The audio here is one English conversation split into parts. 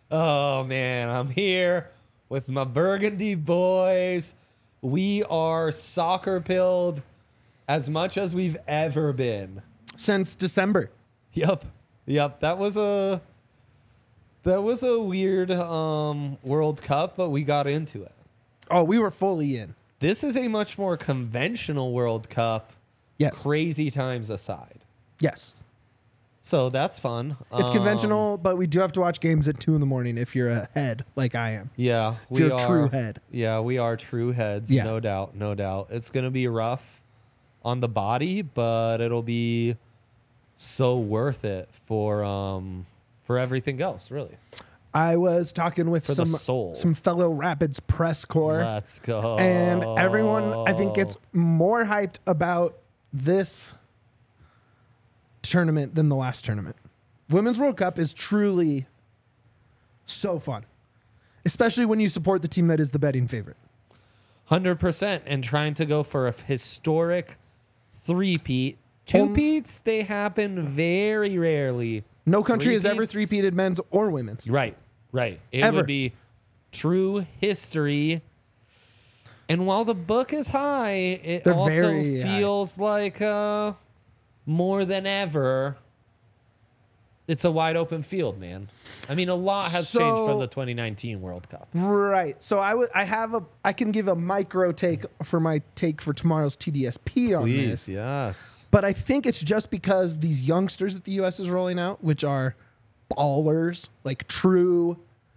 Oh, man, I'm here with my Burgundy boys. We are soccer-pilled as much as we've ever been. Since December. Yep. That was a weird World Cup, but we got into it. Oh, we were fully in. This is a much more conventional World Cup. Yes. Crazy times aside. Yes. So that's fun. It's conventional, but we do have to watch games at 2 a.m. if you're a head like I am. Yeah. If you're a true head. Yeah, we are true heads. Yeah. No doubt. It's going to be rough on the body, but it'll be so worth it for everything else, really. I was talking with For the soul. some fellow Rapids press corps. Let's go. And everyone, I think, gets more hyped about this tournament than the last tournament. Women's World Cup is truly so fun, especially when you support the team that is the betting favorite. 100%. And trying to go for a historic three-peat. Two-peats, they happen very rarely. No country has ever Three-peats? three-peated men's or women's. Right. It Ever. would be true history. And while the book is high, it They're also very high. feels like more than ever, it's a wide open field, man. I mean, a lot has changed from the 2019 World Cup. Right. So I can give a micro take for tomorrow's TDSP on this. Yes. But I think it's just because these youngsters that the U.S. is rolling out, which are ballers, like true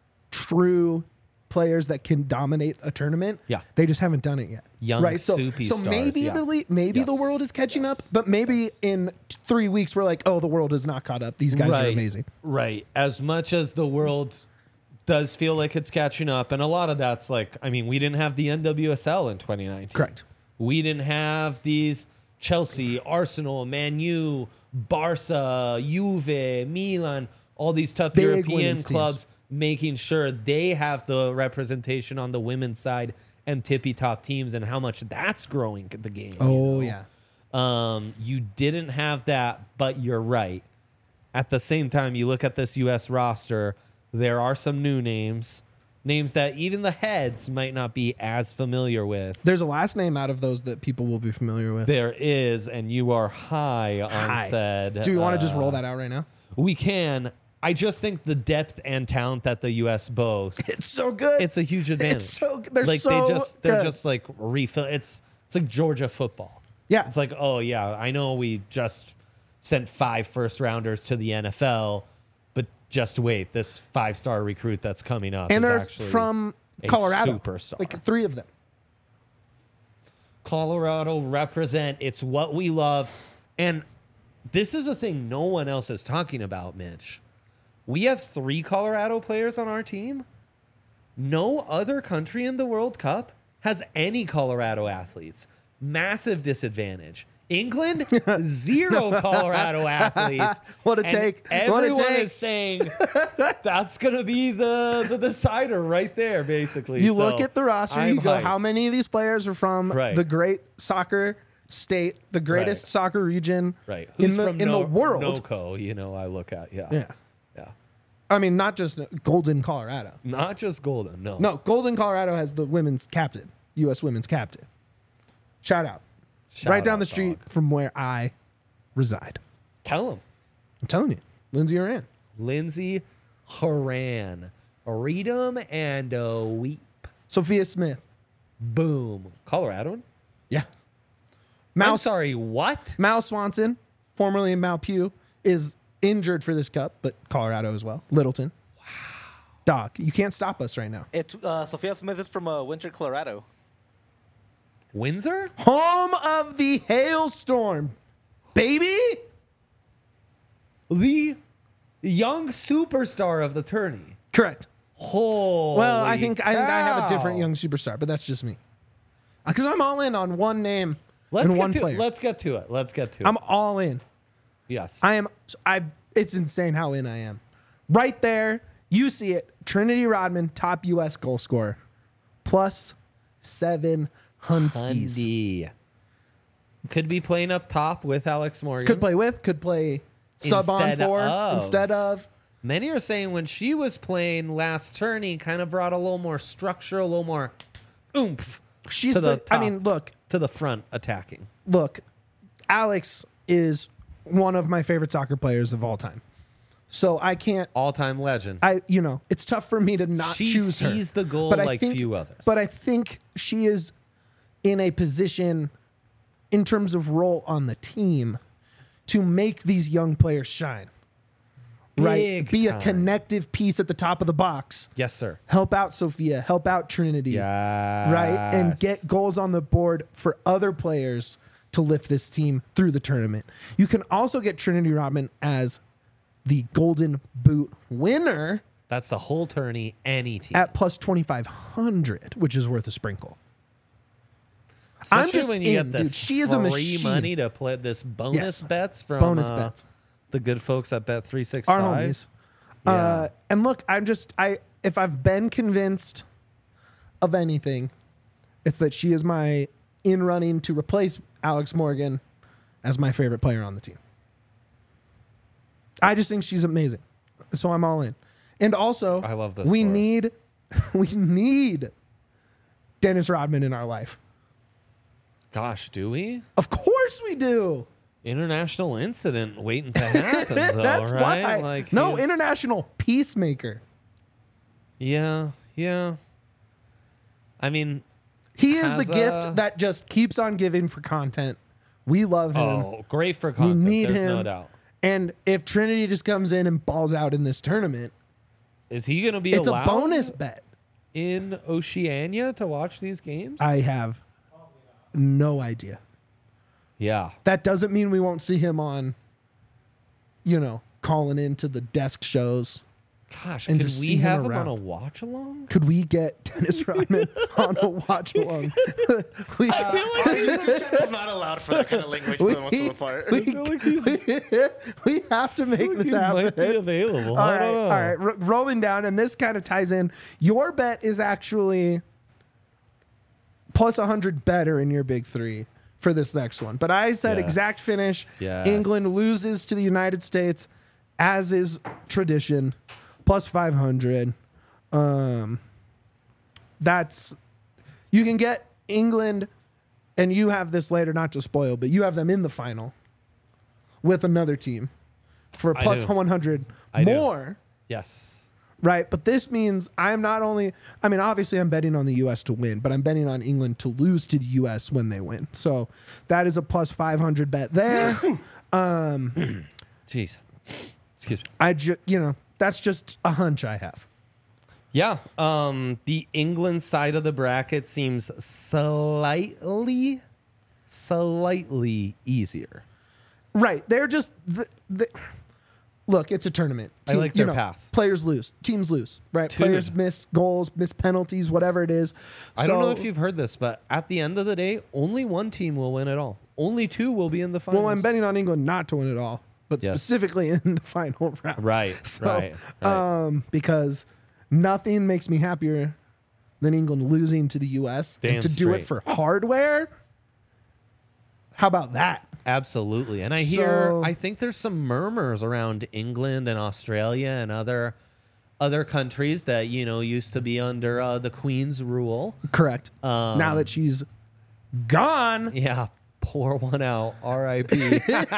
players that can dominate a tournament. Yeah. They just haven't done it yet. Young So soupy maybe stars, maybe Yes. the world is catching up, but maybe in 3 weeks we're like, oh, the world is not caught up. These guys are amazing. Right. As much as the world does feel like it's catching up, and a lot of that's like, I mean, we didn't have the NWSL in 2019. Correct. We didn't have these Chelsea, Arsenal, Man U, Barca, Juve, Milan, all these tough Big European women's clubs making sure they have the representation on the women's side and tippy top teams, and how much that's growing the game. Oh, you know? yeah. You didn't have that, but you're right. At the same time, you look at this U.S. roster, there are some new names that even the heads might not be as familiar with. There's a last name out of those that people will be familiar with. There is, and you are high on said. Do we want to just roll that out right now? We can. I just think the depth and talent that the U.S. boasts, It's so good. it's a huge advantage. It's so good. They're like so they're good. just like refill. It's like Georgia football. Yeah. It's like, oh yeah, I know we just sent 5 first-rounders to the NFL, but just wait, this 5-star recruit that's coming up and is they're actually from a Colorado. superstar. Like 3 of them. Colorado represent. It's what we love. And this is a thing no one else is talking about, Mitch. We have 3 Colorado players on our team. No other country in the World Cup has any Colorado athletes. Massive disadvantage. England, 0 Colorado athletes. What a And take. What a Everyone take. is saying that's going to be the decider right there, basically. You So look at the roster, I'm you go, hyped. how many of these players are from Right. the great soccer state, the greatest Right. soccer region Right. in Who's the from in the world? NOCO, I look at. Yeah. Yeah. Yeah. I mean, not just Golden, Colorado. Not just Golden. No. No, Golden, Colorado has the women's captain, U.S. women's captain. Shout out. Shout right down out, the street dog. from where I reside. Tell him. I'm telling you, Lindsay Oran. Lindsay Horan. Read 'em and weep. Sophia Smith. Boom. Colorado? Yeah. I'm sorry, what? Mal Swanson, formerly Mal Pugh, is injured for this cup, but Colorado as well. Littleton. Wow. Dog, you can't stop us right now. Sophia Smith is from Winter, Colorado. Windsor? Home of the hailstorm, baby. The young superstar of the tourney. Correct. Holy Well, I think I have a different cow. young superstar, but that's just me. Because I'm all in on one name Let's and get one to player. Let's get to it. I'm all in. Yes. It's insane how in I am. Right there, you see it. Trinity Rodman, top U.S. goal scorer, +7 Hunskies. Hundy. Could be playing up top with Alex Morgan. Could play with, could play sub on Instead for of. instead of. Many are saying when she was playing last tourney, kind of brought a little more structure, a little more oomph She's to the I top, mean, look, to the front attacking. Alex is one of my favorite soccer players of all time. So I can't. All-time legend. It's tough for me to not She choose her. sees the goal But I like think- few others. But I think she is in a position, in terms of role on the team, to make these young players shine. Right? Big Be time. a connective piece at the top of the box. Yes, sir. Help out Sophia. Help out Trinity. Yeah. Right? And get goals on the board for other players to lift this team through the tournament. You can also get Trinity Rodman as the Golden Boot winner That's the whole tourney, any team. at plus 2,500, which is worth a sprinkle. Especially I'm just when you in, get this dude. She is a free machine. money to play this bonus Yes. bets from Bonus bets. the good folks at Bet365. Our homies. Yeah. And look, if I've been convinced of anything, it's that she is my in running to replace Alex Morgan as my favorite player on the team. I just think she's amazing. So I'm all in. And also, I love this we for us. need Dennis Rodman in our life. Gosh, do we? Of course we do. International incident waiting to happen, though, That's right? why. Like No, he's- international peacemaker. Yeah, yeah. I mean, He is the Has gift that just keeps on giving for content. We love him. great for content. need There's him. no doubt. And if Trinity just comes in and balls out in this tournament, Is he going to be it's allowed a bonus bet. in Oceania to watch these games? I have no idea. Yeah. That doesn't mean we won't see him on, calling into the desk shows. Gosh, And can just we see him have him around. on a watch along? Could we get Dennis Rodman on a watch along? we, Our YouTube channel is not allowed for that kind of language for the most part. we, feel like he's- we have to make this He might happen. be available. All I right, don't know. all right. Rolling down, and this kind of ties in. Your bet is actually plus 100 better in your big three for this next one. But I said Yes. exact finish. Yes. England loses to the United States, as is tradition, plus 500. That's you can get England, and you have this later, not to spoil, but you have them in the final with another team for I plus do. 100 I do. more. Yes. Right, but this means I'm not only, obviously I'm betting on the U.S. to win, but I'm betting on England to lose to the U.S. when they win. So that is a plus 500 bet there. Jeez. Excuse me. That's just a hunch I have. Yeah. The England side of the bracket seems slightly easier. Right, they're just, look, it's a tournament. I like their path. Players lose, teams lose, right? Dude. Players miss goals, miss penalties, whatever it is. I don't know So- if you've heard this, but at the end of the day, only one team will win it all. Only two will be in the finals. Well, I'm betting on England not to win it all, but Yes. specifically in the final round. Right, right. Because nothing makes me happier than England losing to the U.S. Damn and to do it straight. for hardware. How about that? Absolutely. And I think there's some murmurs around England and Australia and other countries that, used to be under the Queen's rule. Correct. Now that she's gone, Yeah. Pour one out. R.I.P.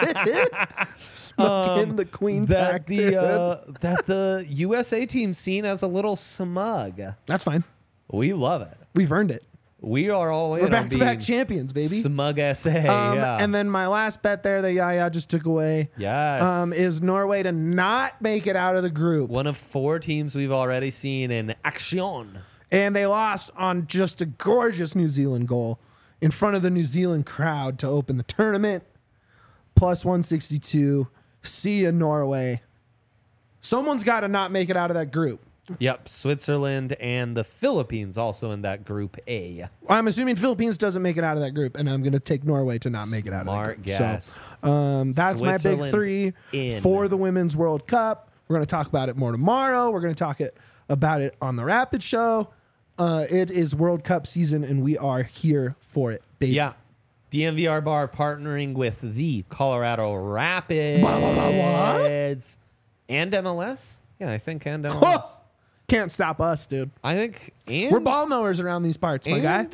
smoking the Queen that back. dude. that the USA team's seen as a little smug. That's fine. We love it. We've earned it. We are all in We're on back-to-back being champions, baby. smug SA. Yeah. And then my last bet there that Yaya just took away Yes. is Norway to not make it out of the group. one of four teams we've already seen in action. And they lost on just a gorgeous New Zealand goal in front of the New Zealand crowd to open the tournament. Plus 162. See ya, Norway. Someone's got to not make it out of that group. Yep, Switzerland and the Philippines also in that group A. I'm assuming Philippines doesn't make it out of that group, and I'm going to take Norway to not make it out Smart of that group. guess. So that's my big Switzerland three in. for the Women's World Cup. We're going to talk about it more tomorrow. We're going to talk about it on the Rapid Show. It is World Cup season, and we are here for it, baby. Yeah. DMVR Bar partnering with the Colorado Rapids and MLS. Yeah, I think and MLS. Can't stop us, dude. I think and We're ball mowers around these parts, my guy.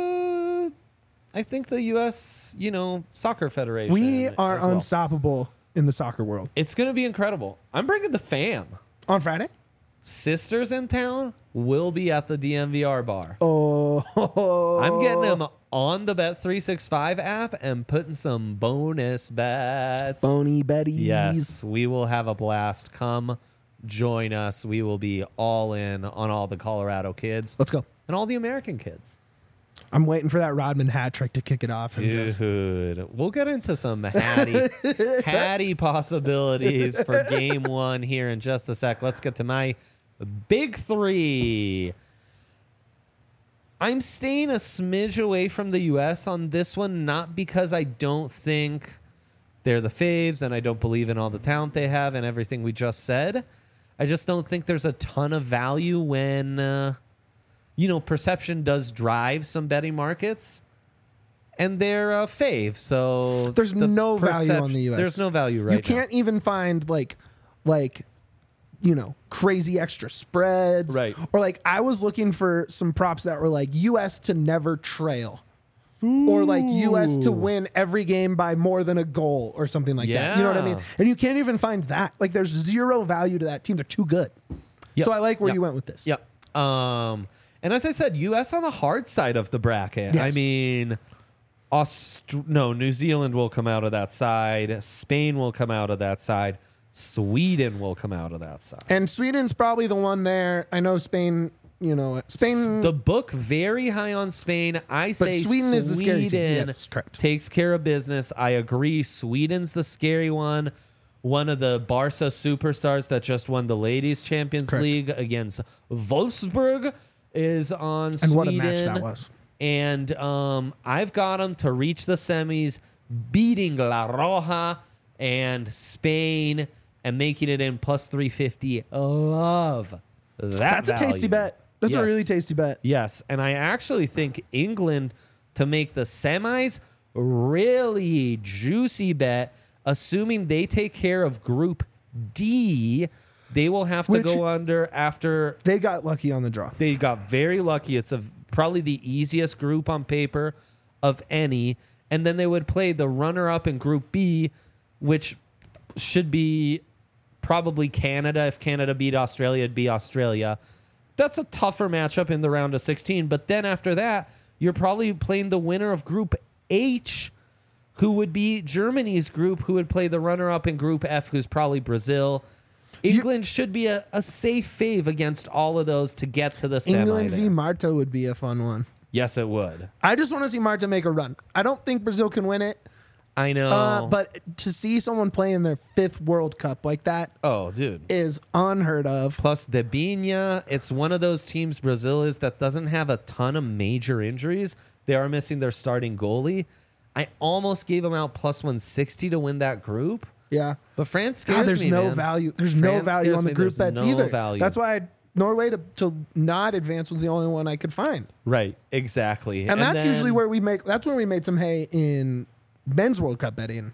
I think the U.S. Soccer Federation. We are as well. unstoppable in the soccer world. It's gonna be incredible. I'm bringing the fam. On Friday? Sisters in town will be at the DMVR bar. Oh. I'm getting them on the Bet365 app and putting some bonus bets. Bony Betties. Yes, we will have a blast. Come join us. We will be all in on all the Colorado kids Let's go. and all the American kids. I'm waiting for that Rodman hat trick to kick it off. And Dude, we'll get into some Hattie possibilities for game one here in just a sec. Let's get to my big three. I'm staying a smidge away from the U.S. on this one, not because I don't think they're the faves and I don't believe in all the talent they have and everything we just said. I just don't think there's a ton of value when... perception does drive some betting markets, and they're a fave. So there's no value on the U.S. There's no value right now. You can't even find crazy extra spreads. Right. Or I was looking for some props that were U.S. to never trail. Or U.S. to win every game by more than a goal or something like that. You know what I mean? Yeah. And you can't even find that. There's zero value to that team. They're too good. Yep. So I like where Yep. you went with this. Yep. And as I said, U.S. on the hard side of the bracket. Yes. I mean, New Zealand will come out of that side. Spain will come out of that side. Sweden will come out of that side. And Sweden's probably the one there. I know Spain, Spain. The book very high on Spain. I say Sweden is the scary team. Yes, correct. Takes care of business. I agree. Sweden's the scary one. One of the Barca superstars that just won the Ladies Champions Correct. League against Wolfsburg is on Sweden. And what a match that was. And I've got them to reach the semis, beating La Roja and Spain and making it in plus 350. Love that. That's a tasty value. bet. That's a Yes. really tasty bet. Yes, and I actually think England to make the semis, really juicy bet, assuming they take care of Group D. They will have to Which- go under after They got lucky on the draw. they got very lucky. It's probably the easiest group on paper of any. And then they would play the runner-up in Group B, which should be probably Canada. If Canada beat Australia, it'd be Australia. That's a tougher matchup in the round of 16. But then after that, you're probably playing the winner of Group H, who would be Germany's group, who would play the runner-up in Group F, who's probably Brazil. England should be a safe fave against all of those to get to the semi. England v there. Marta would be a fun one. Yes, it would. I just want to see Marta make a run. I don't think Brazil can win it, I know. but to see someone play in their 5th World Cup like that oh, dude. is unheard of. Plus, Debinha, it's one of those teams, Brazil is, that doesn't have a ton of major injuries. They are missing their starting goalie. I almost gave them out plus 160 to win that group. Yeah. But France scares God, there's me, no man. value. There's no France value scares on the me. group There's bets no either. value. That's why Norway to not advance was the only one I could find. Right, exactly. And that's then- usually where we made some hay in men's World Cup betting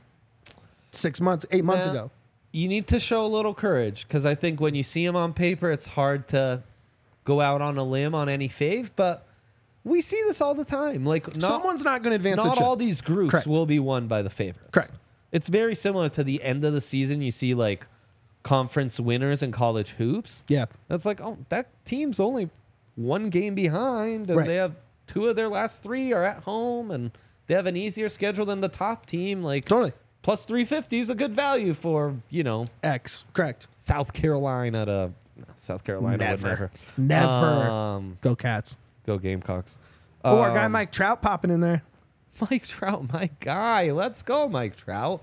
8 months Nah, ago. You need to show a little courage because I think when you see them on paper, it's hard to go out on a limb on any fave. But we see this all the time. Someone's not going to advance. Not a all chip. these groups Correct. will be won by the favorites. Correct. It's very similar to the end of the season. You see conference winners in college hoops. Yeah. That's that team's only one game behind, and Right. they have 2 of their last 3 are at home, and they have an easier schedule than the top team. Totally. Plus 350 is a good value for X. Correct. South Carolina South Carolina would Never. never. Go Cats. Go Gamecocks. Oh, our guy Mike Trout popping in there. Mike Trout, my guy. Let's go, Mike Trout.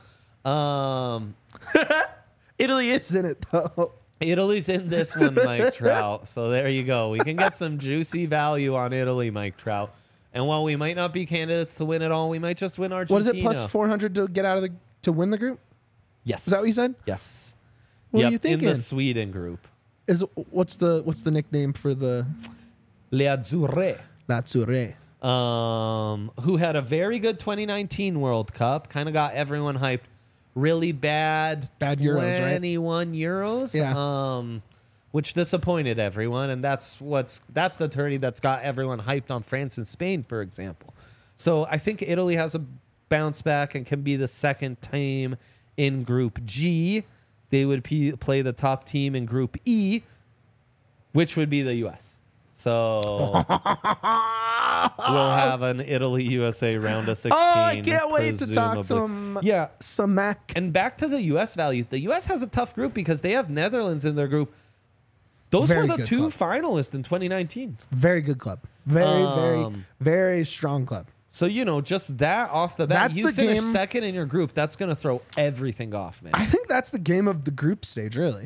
Italy is in it though. Italy's in this one, Mike Trout. So there you go. We can get some juicy value on Italy, Mike Trout. And while we might not be candidates to win it all, we might just win Argentina. What is it? Plus 400 to get out of to win the group. Yes. Is that what you said? Yes. What are you In thinking? the Sweden group. What's the nickname for the Le Azzurre. Lazzurre? Who had a very good 2019 World Cup, kind of got everyone hyped. really bad Euros, right? 21 euros. Yeah. Which disappointed everyone, and that's the tourney that's got everyone hyped on France and Spain, for example. So I think Italy has a bounce back and can be the second team in Group G. They would play the top team in Group E, which would be the U.S. So we'll have an Italy-USA round of 16. Oh, I can't wait to talk presumably. some Mac. And back to the U.S. values. The U.S. has a tough group because they have Netherlands in their group. Those Very were the good two club. finalists in 2019. Very good club. Very strong club. So, just that off the bat, That's you the finish game. second in your group. That's going to throw everything off, man. I think that's the game of the group stage, really.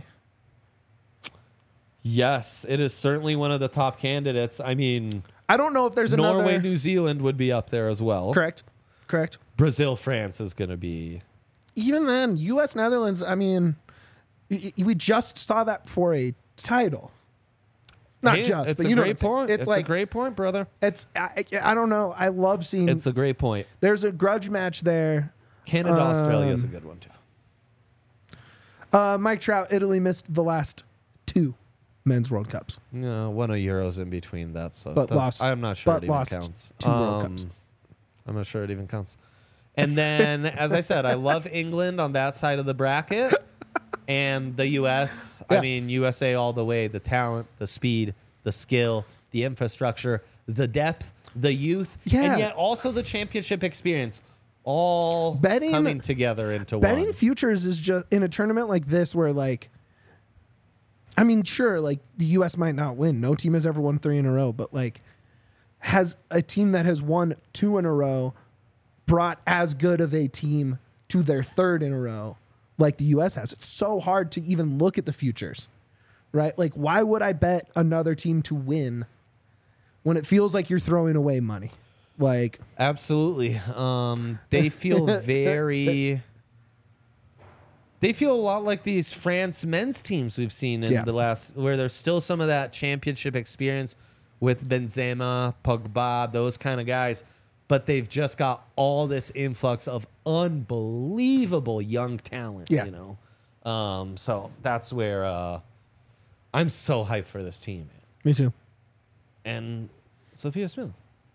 Yes, it is certainly one of the top candidates. I mean, I don't know if there's Norway, another. New Zealand would be up there as well. Correct. Brazil, France is going to be. Even then, U.S. Netherlands. I mean, we just saw that for a title. Not Hey, just, it's but a you know, great point. It's like a great point, brother. I don't know. I love seeing. It's a great point. There's a grudge match there. Canada, Australia is a good one too. Mike Trout, Italy missed the last 2 men's World Cups. No, one of Euros in between that, so But lost- I'm not sure but it even lost counts. 2 World Cups. I'm not sure it even counts. And then, as I said, I love England on that side of the bracket, and the U.S. Yeah. I mean, USA all the way. The talent, the speed, the skill, the infrastructure, the depth, the youth, Yeah. and yet also the championship experience, all Betting- coming together into Betting one. futures is just in a tournament like this where, like, I mean, sure, like the U.S. might not win. No team has ever won 3 in a row, but like, has a team that has won 2 in a row brought as good of a team to their 3rd in a row like the U.S. has? It's so hard to even look at the futures, right? Like, why would I bet another team to win when it feels like you're throwing away money? Like, Absolutely. They feel very. They feel a lot like these France men's teams we've seen in Yeah. the last, where there's still some of that championship experience with Benzema, Pogba, those kind of guys, but they've just got all this influx of unbelievable young talent. Yeah. So that's where I'm so hyped for this team, man. me too. And Sophia Smith.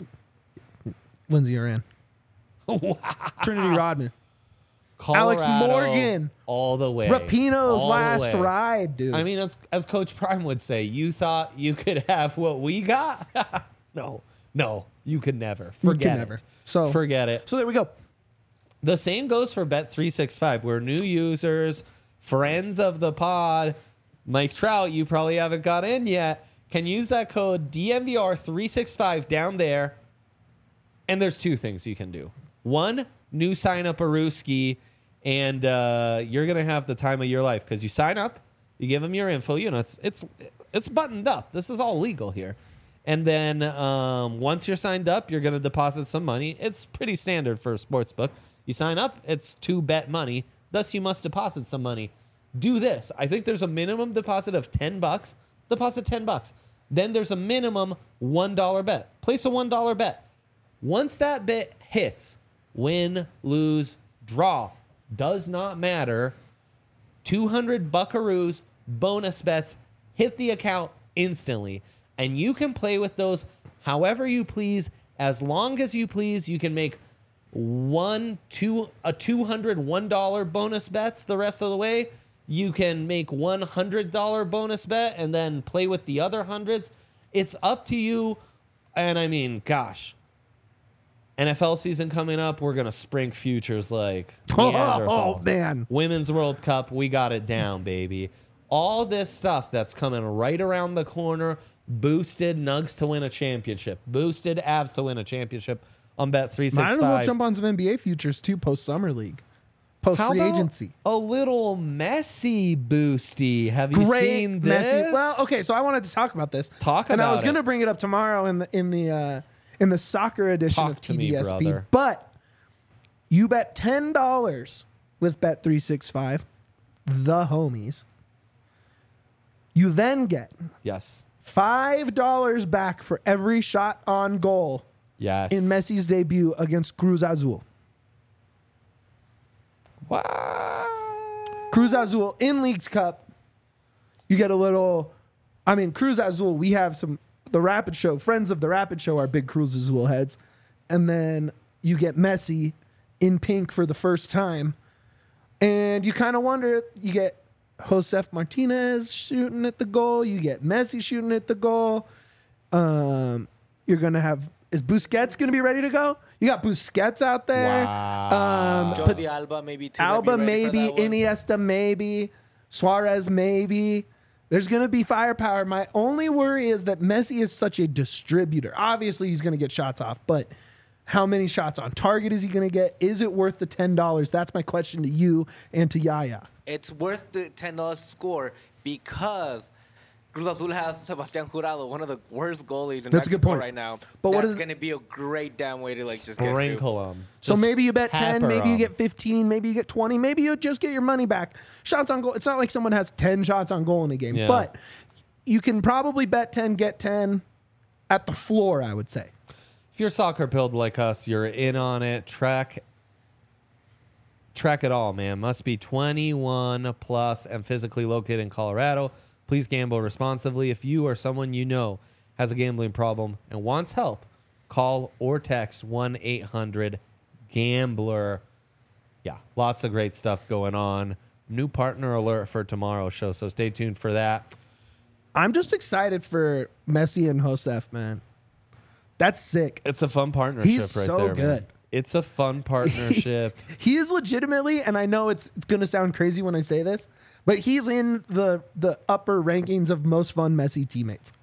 Lindsay Oran. Trinity Rodman. Alex Colorado Morgan. all the way. Rapinoe's All the last way. ride, dude. I mean, as Coach Prime would say, you thought you could have what we got? No, you could never. Forget never. it. So- forget it. so there we go. The same goes for Bet365. We're new users, friends of the pod. Mike Trout, you probably haven't got in yet. Can use that code DNVR365 down there. And there's 2 things you can do. 1, new sign up Aruski, and you're gonna have the time of your life because you sign up, you give them your info. It's buttoned up. This is all legal here. And then once you're signed up, you're gonna deposit some money. It's pretty standard for a sports book. You sign up, it's to bet money. Thus, you must deposit some money. Do this. I think there's a minimum deposit of $10. Deposit $10. Then there's a minimum $1 bet. Place a $1 bet. Once that bet hits, win, lose, draw, does not matter. 200 buckaroos, bonus bets, hit the account instantly. And you can play with those however you please, as long as you please. You can make $200 $1 bonus bets the rest of the way. You can make $100 bonus bet and then play with the other hundreds. It's up to you. And I mean, gosh, NFL season coming up, we're going to spring futures like Neanderthal. Oh, man. Women's World Cup, we got it down, baby. All this stuff that's coming right around the corner, boosted Nugs to win a championship, boosted Avs to win a championship on Bet365. Might as well jump on some NBA futures too post summer league, post How free about agency. a little Messi boosty? Have you seen this? Messi. Well, okay, so I wanted to talk about this. Talk and I about was going to it. bring it up tomorrow in the soccer edition Talk of to me, TDSP. brother. But you bet $10 with Bet365, the homies. You then get Yes. $5 back for every shot on goal Yes. in Messi's debut against Cruz Azul. Cruz Azul in Leagues Cup. You get a little. I mean, Cruz Azul. We have the Rapid Show friends of the Rapid Show are big Cruz Azul heads, and then you get Messi in pink for the first time, and you kind of wonder. You get Josef Martinez shooting at the goal. You get Messi shooting at the goal. You're gonna have. Is Busquets going to be ready to go? You got Busquets out there. Wow. Jordi Alba maybe too. Alba might be ready for maybe. that one. Iniesta maybe. Suarez maybe. There's going to be firepower. My only worry is that Messi is such a distributor. Obviously, he's going to get shots off, but how many shots on target is he going to get? Is it worth the $10? That's my question to you and to Yaya. It's worth the $10 score because Cruz Azul has Sebastián Jurado, one of the worst goalies in That's a good Mexico point. right now. But what That's is- going to be a great damn way to like just get Sprinkle them. So maybe you bet 10, maybe you get 15, maybe you get 20, maybe you just get your money back. Shots on goal. It's not like someone has 10 shots on goal in a game, Yeah. but you can probably bet 10, get 10 at the floor, I would say. If you're soccer pilled like us, you're in on it. Track it all, man. Must be 21 plus and physically located in Colorado. Please gamble responsibly. If you or someone you know has a gambling problem and wants help, call or text 1-800-GAMBLER. Yeah, lots of great stuff going on. New partner alert for tomorrow's show, so stay tuned for that. I'm just excited for Messi and Josef, man. That's sick. It's a fun partnership He's right so there, man. good. It's a fun partnership. He is legitimately, and I know it's going to sound crazy when I say this, but he's in the upper rankings of most fun Messi teammates.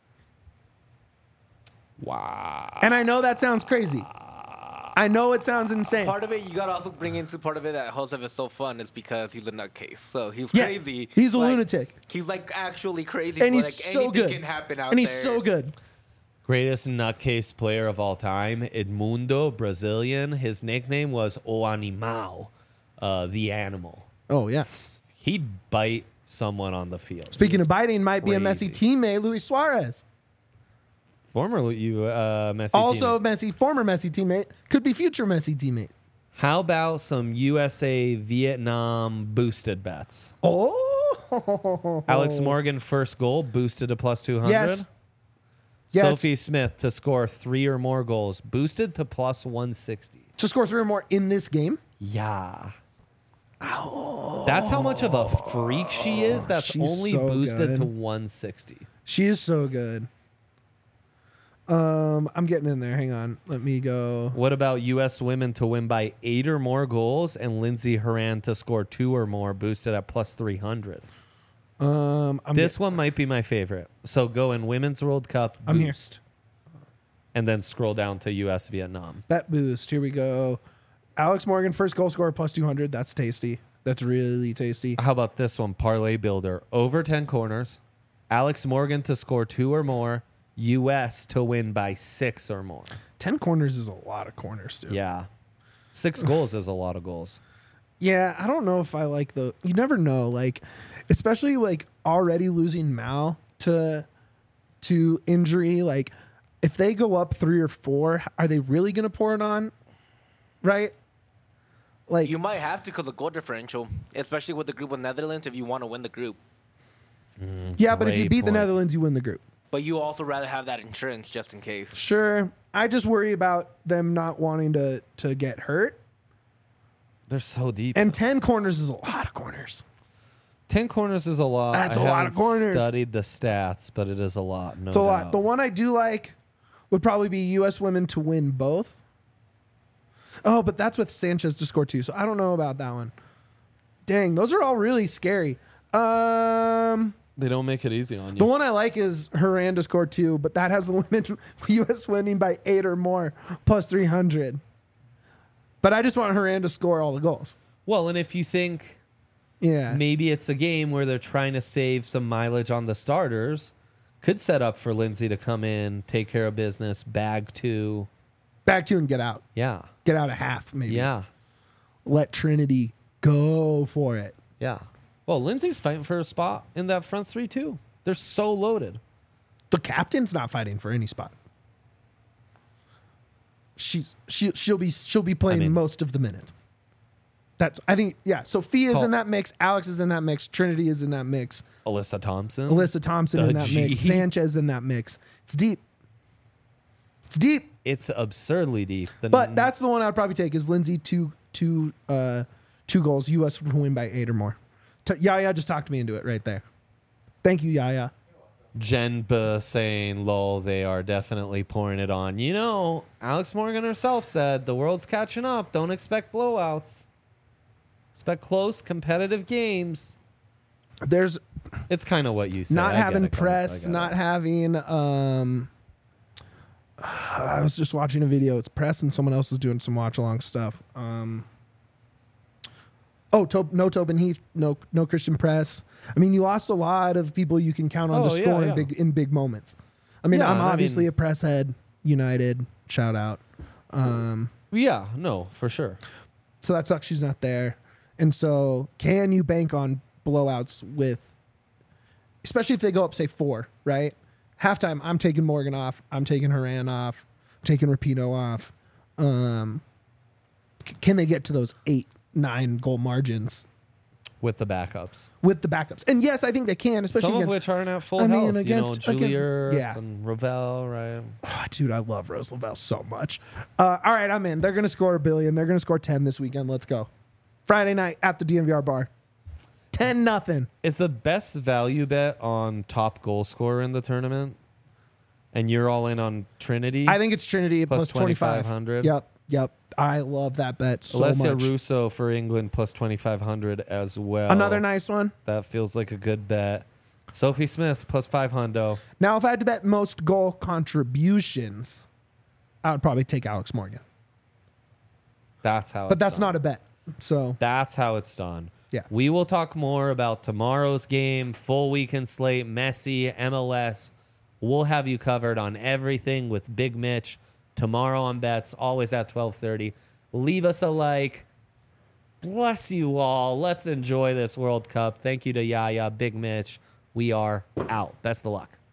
Wow. And I know that sounds crazy. I know it sounds insane. Part of it, you got to also bring into part of it that Josef is so fun is because he's a nutcase. So he's Yeah, crazy. he's a Like, lunatic. He's like actually crazy. And so he's like so anything good. can happen out And he's there. so good. Greatest nutcase player of all time, Edmundo, Brazilian. His nickname was O Animal, the animal. Oh, yeah. He'd bite someone on the field. Speaking He of was biting, might be a Messi crazy. teammate, Luis Suarez. Former Messi Also, teammate. former Messi teammate, could be future Messi teammate. How about some USA Vietnam boosted bets? Oh, Alex Morgan first goal boosted to plus 200. Yes. Yes. Sophie Smith to score 3 or more goals boosted to plus 160. To score 3 or more in this game. Yeah. That's how much of a freak she is. That's She's only so boosted good. to 160. She is so good. I'm getting in there. Hang on. Let me go. What about U.S. women to win by 8 or more goals and Lindsey Horan to score 2 or more boosted at plus 300? This one might be my favorite. So go in Women's World Cup I'm here. boost. And then scroll down to U.S. Vietnam. Bet boost. Here we go. Alex Morgan, first goal scorer, plus 200. That's tasty. That's really tasty. How about this one? Parlay Builder. Over 10 corners. Alex Morgan to score 2 or more. U.S. to win by 6 or more. 10 corners is a lot of corners, dude. Yeah. 6 goals is a lot of goals. Yeah, I don't know if I like the. You never know, like, especially like already losing Mal to injury. Like, if they go up 3 or 4, are they really going to pour it on? Right? Like, You might have to because of goal differential, especially with the group with Netherlands if you want to win the group. yeah, but if you great beat the point. Netherlands, you win the group. But you also rather have that insurance just in case. Sure. I just worry about them not wanting to get hurt. They're so deep. And 10 corners is a lot of corners. 10 corners is a lot. That's I a lot of haven't corners. Studied the stats, but it is a lot. No It's a lot. doubt. The one I do like would probably be U.S. women to win both. Oh, but that's with Sanchez to score 2, so I don't know about that one. Dang, those are all really scary. They don't make it easy on you. The one I like is Horan to score 2, but that has the women U.S. winning by 8 or more, plus 300. But I just want Horan to score all the goals. Well, and if you think Yeah. maybe it's a game where they're trying to save some mileage on the starters, could set up for Lindsay to come in, take care of business, bag 2. Back 2 and get out. Yeah. Get out of half, maybe. Yeah. Let Trinity go for it. Yeah. Well, Lindsay's fighting for a spot in that front 3 too. They're so loaded. The captain's not fighting for any spot. She'll be playing I mean- most of the minutes. I think, yeah. Sophia's Call- in that mix. Alex is in that mix. Trinity is in that mix. Alyssa Thompson. Alyssa Thompson The in that mix. G. Sanchez in that mix. It's deep. It's deep. It's absurdly deep. But that's the one I would probably take is Lindsay two goals. U.S. would win by 8 or more. Yaya just talked me into it right there. Thank you, Yaya. Jenba saying, lol, they are definitely pouring it on. You know, Alex Morgan herself said the world's catching up. Don't expect blowouts. Expect close, competitive games. There's It's kind of what you said. not I get having it, guys. I press, get not it. having. I was just watching a video. It's press and someone else is doing some watch along stuff. No Tobin Heath, no Christian Press. I mean, you lost a lot of people you can count on Oh, to yeah, score yeah. in big moments. I mean, Yeah, I'm I obviously mean- a press head. United, shout out. Yeah, no, for sure. So that sucks she's not there. And so can you bank on blowouts with, especially if they go up, say 4, right? Halftime, I'm taking Morgan off. I'm taking Haran off. I'm taking Rapinoe off. Can they get to those 8-9 goal margins With the backups. with the backups? And yes, I think they can, especially Some of against, which aren't at full I mean, health. against- Julier yeah. and Ravel, right? Oh, dude, I love Rose Lavelle so much. All right, I'm in. They're going to score 1 billion. They're going to score 10 this weekend. Let's go. Friday night at the DNVR bar. 10-0. Is the best value bet on top goal scorer in the tournament? And you're all in on Trinity? I think it's Trinity Plus plus 25. 2,500. Yep. I love that bet so Alessia much. Russo for England plus 2,500 as well. Another nice one. That feels like a good bet. Sophie Smith plus 500. Now, if I had to bet most goal contributions, I would probably take Alex Morgan. That's how But it's that's done. not a bet. So, That's how it's done. Yeah. We will talk more about tomorrow's game, full weekend slate, Messi, MLS. We'll have you covered on everything with Big Mitch tomorrow on bets, always at 12:30. Leave us a like. Bless you all. Let's enjoy this World Cup. Thank you to Yaya, Big Mitch. We are out. Best of luck.